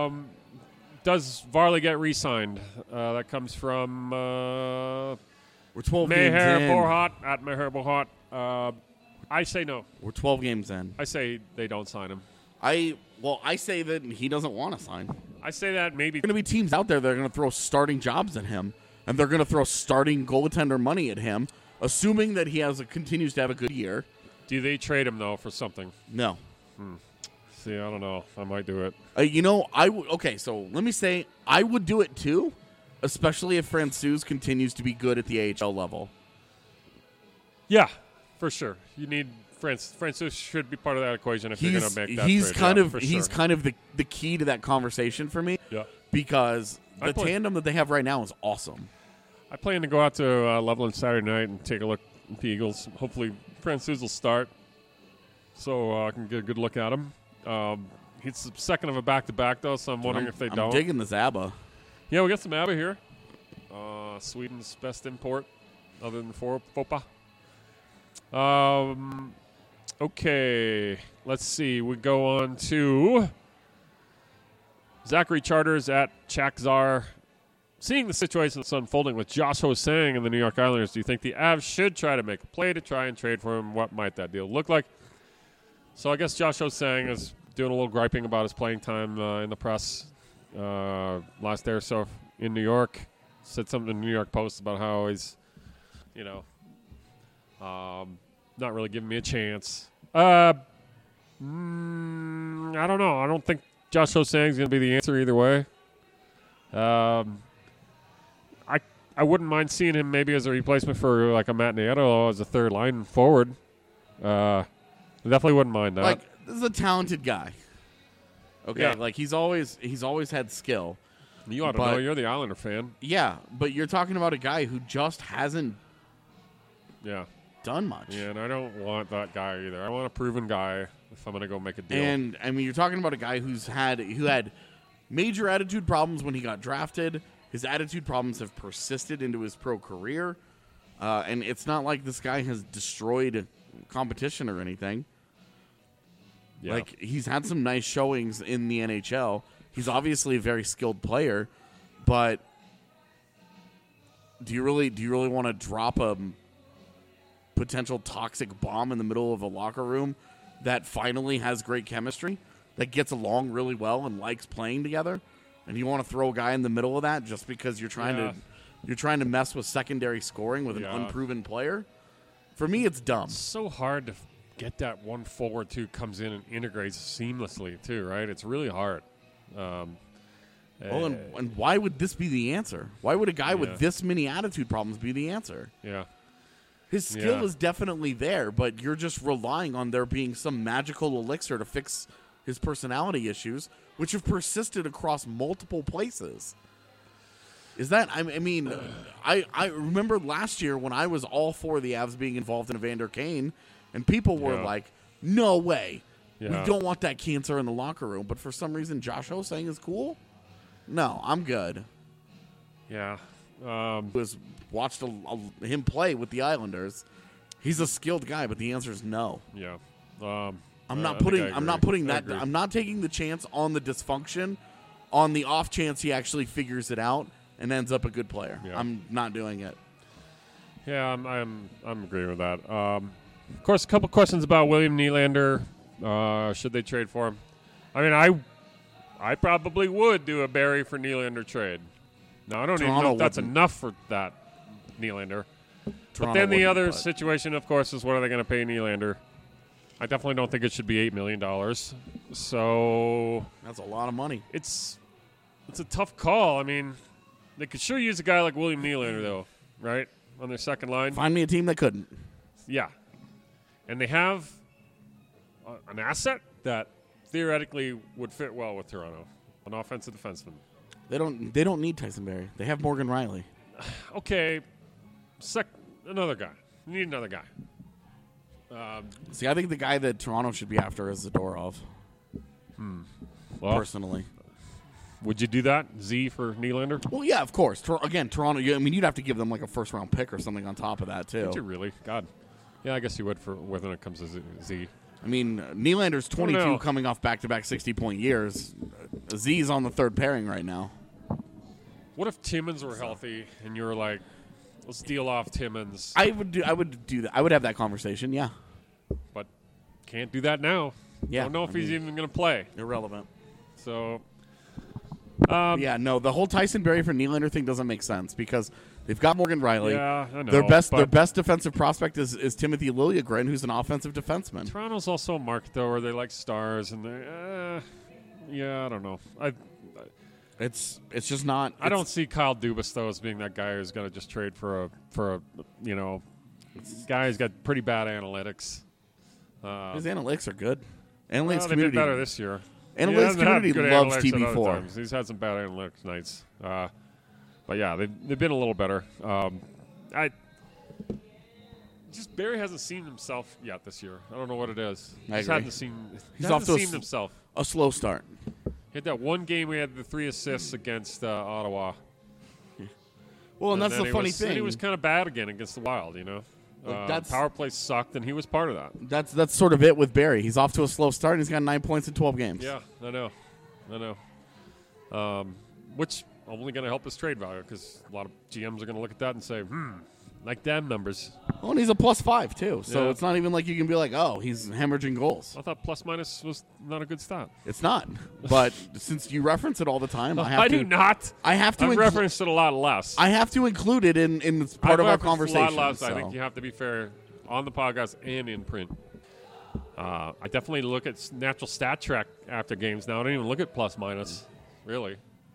Does Varley get re-signed? That comes from we're 12 Meher games in. Borhat at Meher Borhat. I say no. We're 12 games in. I say they don't sign him. I say that he doesn't want to sign. I say that maybe. There are going to be teams out there that are going to throw starting jobs at him, and they're going to throw starting goaltender money at him, assuming that he continues to have a good year. Do they trade him, though, for something? No. See, I don't know. I might do it. Okay, so let me say I would do it, too, especially if Francouz continues to be good at the AHL level. Yeah, for sure. You need Francouz should be part of that equation if you're going to make that trade. He's kind of the key to that conversation for me. Yeah. Because the tandem that they have right now is awesome. I plan to go out to Loveland Saturday night and take a look at the Eagles. Hopefully Francouz will start so I can get a good look at him. He's the second of a back-to-back, though, so I'm wondering if they don't. I'm digging this ABBA. Yeah, we got some ABBA here. Sweden's best import other than FOPA. Okay, let's see. We go on to Zachary Charters at Chakzar. Seeing the situation that's unfolding with Josh Ho-Sang and the New York Islanders, do you think the Avs should try to make a play to try and trade for him? What might that deal look like? So I guess Josh Ho-Sang is doing a little griping about his playing time in the press last day or so in New York. Said something in the New York Post about how he's, not really giving me a chance. I don't know. I don't think Josh Ho-Sang is going to be the answer either way. I wouldn't mind seeing him maybe as a replacement for like a Matt Nieto as a third line forward. I definitely wouldn't mind that. Like, this is a talented guy. Okay, like he's always had skill. You ought to know. You're the Islander fan. Yeah, but you're talking about a guy who just hasn't done much. Yeah, and I don't want that guy either. I want a proven guy if I'm going to go make a deal. And I mean, you're talking about a guy who had major attitude problems when he got drafted. His attitude problems have persisted into his pro career. And it's not like this guy has destroyed competition or anything. Yeah. Like, he's had some nice showings in the NHL. He's obviously a very skilled player, but do you really want to drop a potential toxic bomb in the middle of a locker room that finally has great chemistry, that gets along really well and likes playing together? And you want to throw a guy in the middle of that just because you're trying to mess with secondary scoring with an unproven player? For me, it's dumb. It's so hard to get that one forward who comes in and integrates seamlessly too, right? It's really hard. And why would this be the answer? Why would a guy with this many attitude problems be the answer? Yeah. His skill is definitely there, but you're just relying on there being some magical elixir to fix his personality issues, which have persisted across multiple places. Is that? I mean, I remember last year when I was all for the Avs being involved in Evander Kane, and people were like, "No way, we don't want that cancer in the locker room." But for some reason, Josh Hosang is cool. No, I'm good. Yeah, was watched him play with the Islanders. He's a skilled guy, but the answer is no. Yeah, I'm not putting that. I'm not taking the chance on the dysfunction, on the off chance he actually figures it out and ends up a good player. Yeah. I'm not doing it. Yeah, I'm agreeing with that. Of course, a couple questions about William Nylander. Should they trade for him? I mean, I probably would do a Barry for Nylander trade. Now, I don't even know if that's enough for that Nylander. But then the other situation, of course, is what are they going to pay Nylander? I definitely don't think it should be $8 million. So that's a lot of money. It's a tough call. I mean, they could sure use a guy like William Nylander, though, right, on their second line. Find me a team that couldn't. Yeah. And they have an asset that theoretically would fit well with Toronto, an offensive defenseman. They don't need Tyson Barrie. They have Morgan Riley. Okay, another guy. You need another guy. See, I think the guy that Toronto should be after is Zadorov. Well, personally. Would you do that, Z for Nylander? Well, yeah, of course. Again, Toronto, I mean, you'd have to give them like a first-round pick or something on top of that, too. Would you really? God. Yeah, I guess you would when it comes to Z. I mean, Nylander's 22 coming off back-to-back 60-point years. Z's on the third pairing right now. What if Timmins were healthy and you were like, let's deal off Timmins? I would do that. I would have that conversation, yeah. But can't do that now. Yeah. Don't know if he's even going to play. Irrelevant. So, yeah, no, the whole Tyson Barrie for Nylander thing doesn't make sense because they've got Morgan Riley. Yeah, I know. Their best defensive prospect is Timothy Liljegren, who's an offensive defenseman. Toronto's also a market, though, where they like stars, and I don't know. It's just not. I don't see Kyle Dubas though as being that guy who's going to just trade for a guy who's got pretty bad analytics. His analytics are good. Analytics they've community been better this year. Analytics community loves TB4. He's had some bad analytics nights, but yeah, they've been a little better. Barry hasn't seen himself yet this year. I don't know what it is. He's off to himself. A slow start. He had that one game. We had the 3 assists against Ottawa. Well, and that's the funny thing. And he was kind of bad again against the Wild. Power play sucked, and he was part of that. That's sort of it with Barrie. He's off to a slow start, and he's got 9 points in 12 games. Yeah, I know. Which only going to help his trade value because a lot of GMs are going to look at that and say, like damn numbers. Oh, and he's a +5 too, so it's not even like you can be like, oh, he's hemorrhaging goals. I thought plus-minus was not a good stat. It's not, but since you reference it all the time, I do not. I have to. I've referenced it a lot less. I have to include it in part of our conversation. A lot less. I think you have to be fair on the podcast and in print. I definitely look at natural stat track after games now. I don't even look at plus-minus, really.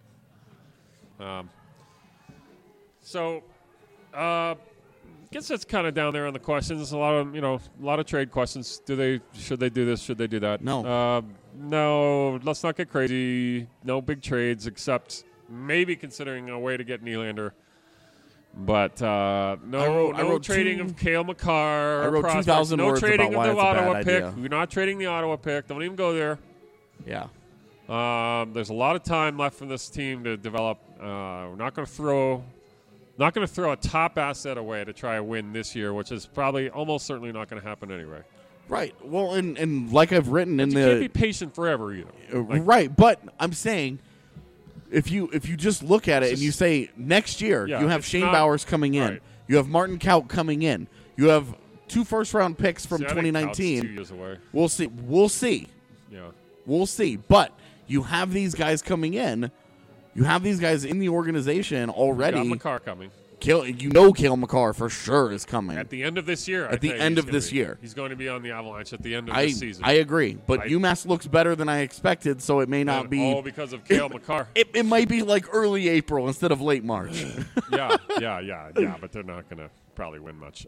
I guess that's kind of down there on the questions. A lot of trade questions. Should they do this? Should they do that? No. No. Let's not get crazy. No big trades, except maybe considering a way to get Nylander. But no trading of Cale Makar. I wrote 2,000 words about why it's a bad idea. No trading of the Ottawa pick. We're not trading the Ottawa pick. Don't even go there. Yeah. There's a lot of time left for this team to develop. We're not going to throw a top asset away to try a win this year, which is probably almost certainly not going to happen anyway. Right. Well, and like I've written you can't be patient forever either. Right. But I'm saying if you just look at it and you say next year you have Shane Bowers coming in, you have Martin Kaut coming in, you have 2 first-round picks from 2019. 2 years away. We'll see. Yeah. We'll see. But you have these guys coming in. You have these guys in the organization already. You got Makar coming. Cale Makar for sure is coming. At the end of this year. He's going to be on the Avalanche at the end of this season. I agree. But UMass looks better than I expected, so it may not be. All because of Cale Makar. It might be like early April instead of late March. Yeah. But they're not going to probably win much.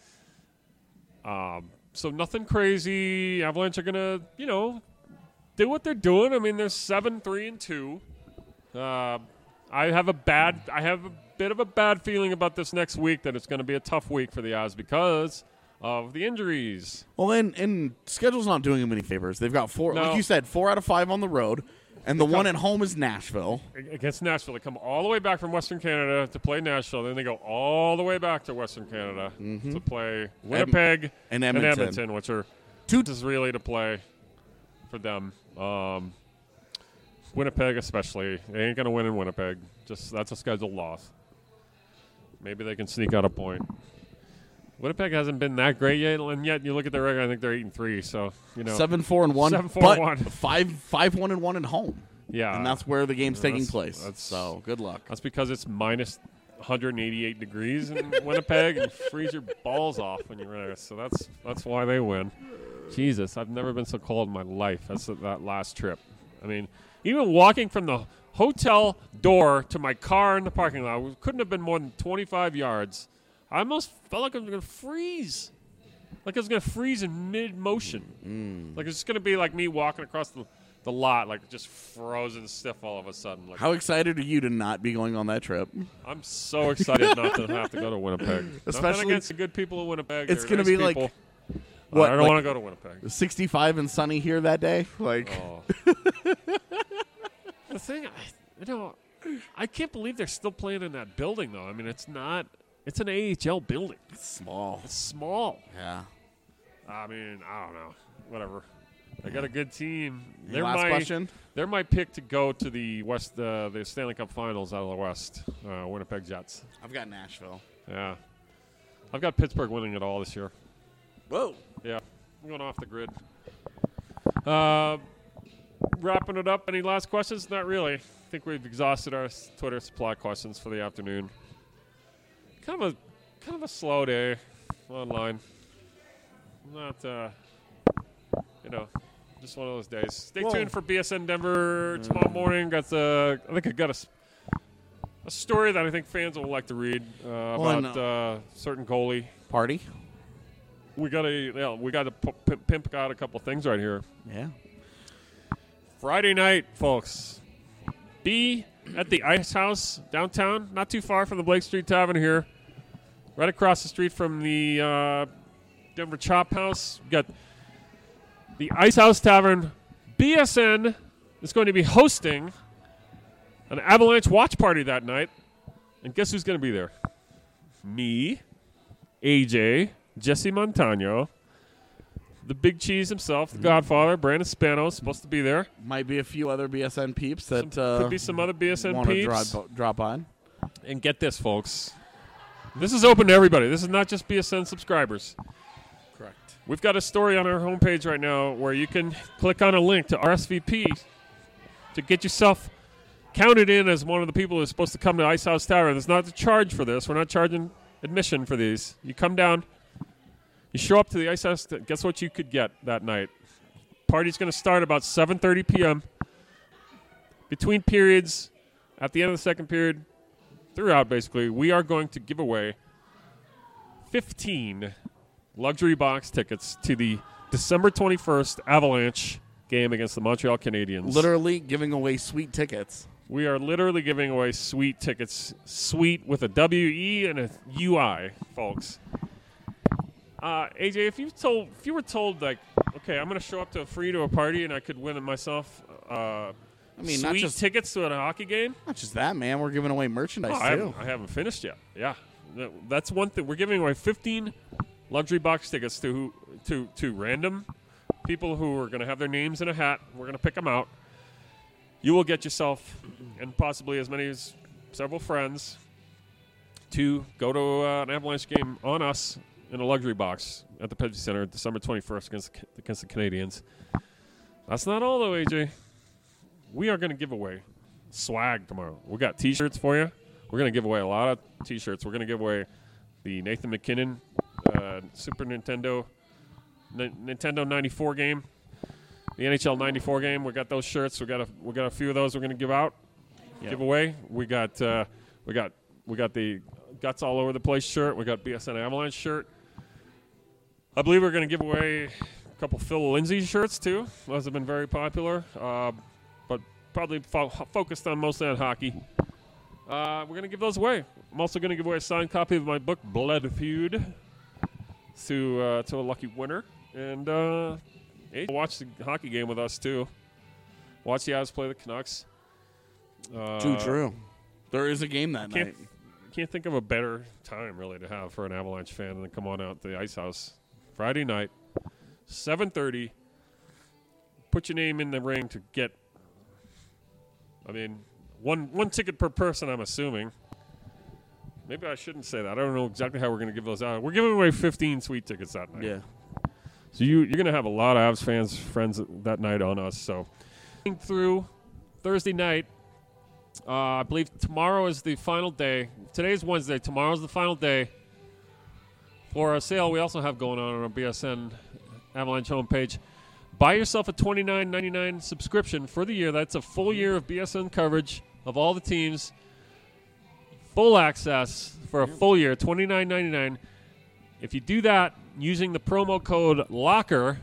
So nothing crazy. Avalanche are going to, do what they're doing. I mean, they're 7-3-2. I have a bit of a bad feeling about this next week, that it's going to be a tough week for the Avs because of the injuries. Well, and schedule's not doing them any favors. They've got four, No. like you said, 4 out of 5 on the road, and the one at home is Nashville. Against Nashville. They come all the way back from Western Canada to play Nashville. Then they go all the way back to Western Canada to play Winnipeg and Edmonton. which are two is really to play for them. Winnipeg especially. They ain't going to win in Winnipeg. That's a scheduled loss. Maybe they can sneak out a point. Winnipeg hasn't been that great yet, and yet you look at their record, I think they're 8-3. So 7-4-1, 7-4-1. 5-1-1 at home. Yeah, and that's where the game's taking place. So good luck. That's because it's minus 188 degrees in Winnipeg and freeze your balls off when you're there. So that's why they win. Jesus, I've never been so cold in my life as that last trip. I mean, even walking from the hotel door to my car in the parking lot, we couldn't have been more than 25 yards. I almost felt like I was going to freeze. Like I was going to freeze in mid-motion. Like it's just going to be like me walking across the lot, like just frozen stiff all of a sudden. Like, how excited are you to not be going on that trip? I'm so excited not to have to go to Winnipeg. Especially Nothing against the good people of Winnipeg. It's going to be people. Like, what? I don't want to go to Winnipeg. 65 and sunny here that day? Like, The thing, I can't believe they're still playing in that building, though. I mean, it's an AHL building. It's small. It's small. Yeah. I mean, I don't know. Whatever. They got a good team. Last question? They're my pick to go to the West, the Stanley Cup Finals out of the West. Winnipeg Jets. I've got Nashville. Yeah. I've got Pittsburgh winning it all this year. Whoa. Yeah. I'm going off the grid. Wrapping it up. Any last questions? Not really. I think we've exhausted our Twitter supply questions for the afternoon. Kind of a slow day online. Not, just one of those days. Stay tuned for BSN Denver tomorrow morning. I think I got a story that I think fans will like to read about certain goalie party. We got to pimp out a couple things right here. Yeah. Friday night, folks. Be at the Ice House downtown, not too far from the Blake Street Tavern here. Right across the street from the Denver Chop House. We got the Ice House Tavern. BSN is going to be hosting an Avalanche watch party that night. And guess who's going to be there? Me, AJ, Jesse Montano, the Big Cheese himself, the Godfather, Brandon Spano, supposed to be there. Might be a few other BSN peeps that could be some other BSN want peeps. to drop on. And get this, folks. This is open to everybody. This is not just BSN subscribers. Correct. We've got a story on our homepage right now where you can click on a link to RSVP to get yourself counted in as one of the people who's supposed to come to Ice House Tavern. There's not a charge for this. We're not charging admission for these. You come down, you show up to the Ice House. Guess what you could get that night? Party's going to start about 7:30 p.m. Between periods, at the end of the second period, throughout basically, we are going to give away 15 luxury box tickets to the December 21st Avalanche game against the Montreal Canadiens. Literally giving away sweet tickets. We are literally giving away sweet tickets. Sweet with a W-E and a U-I, folks. AJ, if you were told, like, okay, I'm going to show up to a party and I could win it myself sweet not just tickets to a hockey game? Not just that, man. We're giving away merchandise, too. I haven't finished yet. Yeah. That's one thing. We're giving away 15 luxury box tickets to random people who are going to have their names in a hat. We're going to pick them out. You will get yourself, and possibly as many as several friends, to go to an Avalanche game on us in a luxury box at the Pepsi Center December 21st against the Canadiens. That's not all, though, AJ. We are going to give away swag tomorrow. We got T-shirts for you. We're going to give away a lot of T-shirts. We're going to give away the Nathan McKinnon Super Nintendo 94 game, the NHL 94 game. We got those shirts. We got a few of those we're going to give out, give away. We got the Guts All Over the Place shirt. We got BSN Avalanche shirt. I believe we're going to give away a couple Phil Lindsay shirts too. Those have been very popular, but probably focused on mostly on hockey. We're going to give those away. I'm also going to give away a signed copy of my book, Blood Feud, to a lucky winner. And watch the hockey game with us, too. Watch the Avs play the Canucks. True. There is a game that night. Can't think of a better time, really, to have for an Avalanche fan than to come on out to the Ice House Friday night, 7:30. Put your name in the ring to get, one ticket per person, I'm assuming. Maybe I shouldn't say that. I don't know exactly how we're going to give those out. We're giving away 15 sweet tickets that night. Yeah. So you're going to have a lot of Avs friends that night on us. So through Thursday night, I believe tomorrow is the final day. Today's Wednesday. Tomorrow's the final day for a sale we also have going on our BSN Avalanche homepage. Buy yourself a $29.99 subscription for the year. That's a full year of BSN coverage of all the teams. Full access for a full year, $29.99. If you do that using the promo code LOCKER,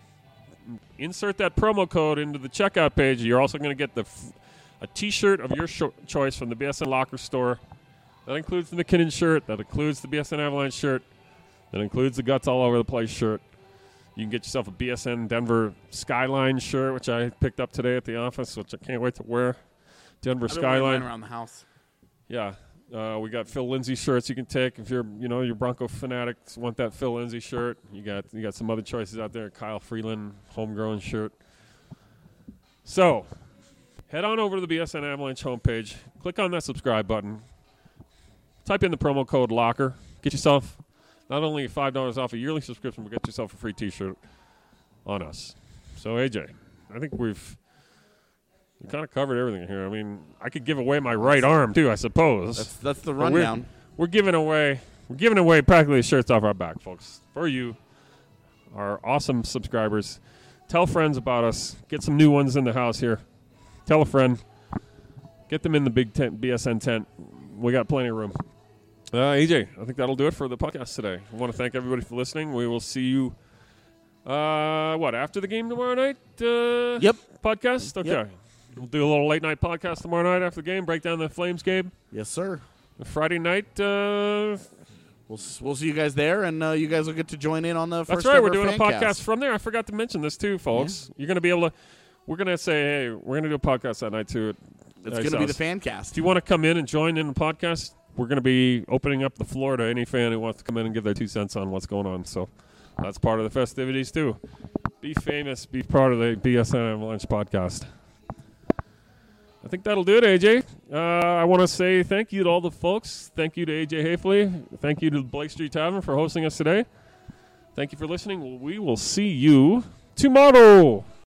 insert that promo code into the checkout page. You're also going to get a T-shirt of your choice from the BSN Locker store. That includes the McKinnon shirt. That includes the BSN Avalanche shirt. That includes the Guts All Over the Place shirt. You can get yourself a BSN Denver Skyline shirt, which I picked up today at the office, which I can't wait to wear. Denver Skyline around the house. Yeah. We got Phil Lindsay shirts you can take if you're Bronco fanatics want that Phil Lindsay shirt. You got some other choices out there. Kyle Freeland homegrown shirt. So, head on over to the BSN Avalanche homepage. Click on that subscribe button. Type in the promo code LOCKER. Get yourself not only $5 off a yearly subscription, but get yourself a free T-shirt on us. So, AJ, I think we kind of covered everything here. I mean, I could give away my right arm too, I suppose. That's the rundown. We're giving away practically shirts off our back, folks, for you, our awesome subscribers. Tell friends about us. Get some new ones in the house here. Tell a friend. Get them in the big tent, BSN tent. We got plenty of room. AJ, I think that'll do it for the podcast today. I want to thank everybody for listening. We will see you, after the game tomorrow night? Yep. Podcast? Okay. Yep. We'll do a little late night podcast tomorrow night after the game, break down the Flames game. Yes, sir. Friday night. We'll see you guys there, and you guys will get to join in on the first. That's right. We're doing a podcast from there. I forgot to mention this too, folks. Yeah. You're going to be able to. We're going to say, hey, we're going to do a podcast that night too. It's going to be the fan cast. If you want to come in and join in the podcast, we're going to be opening up the floor to any fan who wants to come in and give their 2 cents on what's going on. So that's part of the festivities too. Be famous. Be part of the BSN Avalanche podcast. I think that'll do it, AJ. I want to say thank you to all the folks. Thank you to AJ Hafley. Thank you to Blake Street Tavern for hosting us today. Thank you for listening. We will see you tomorrow.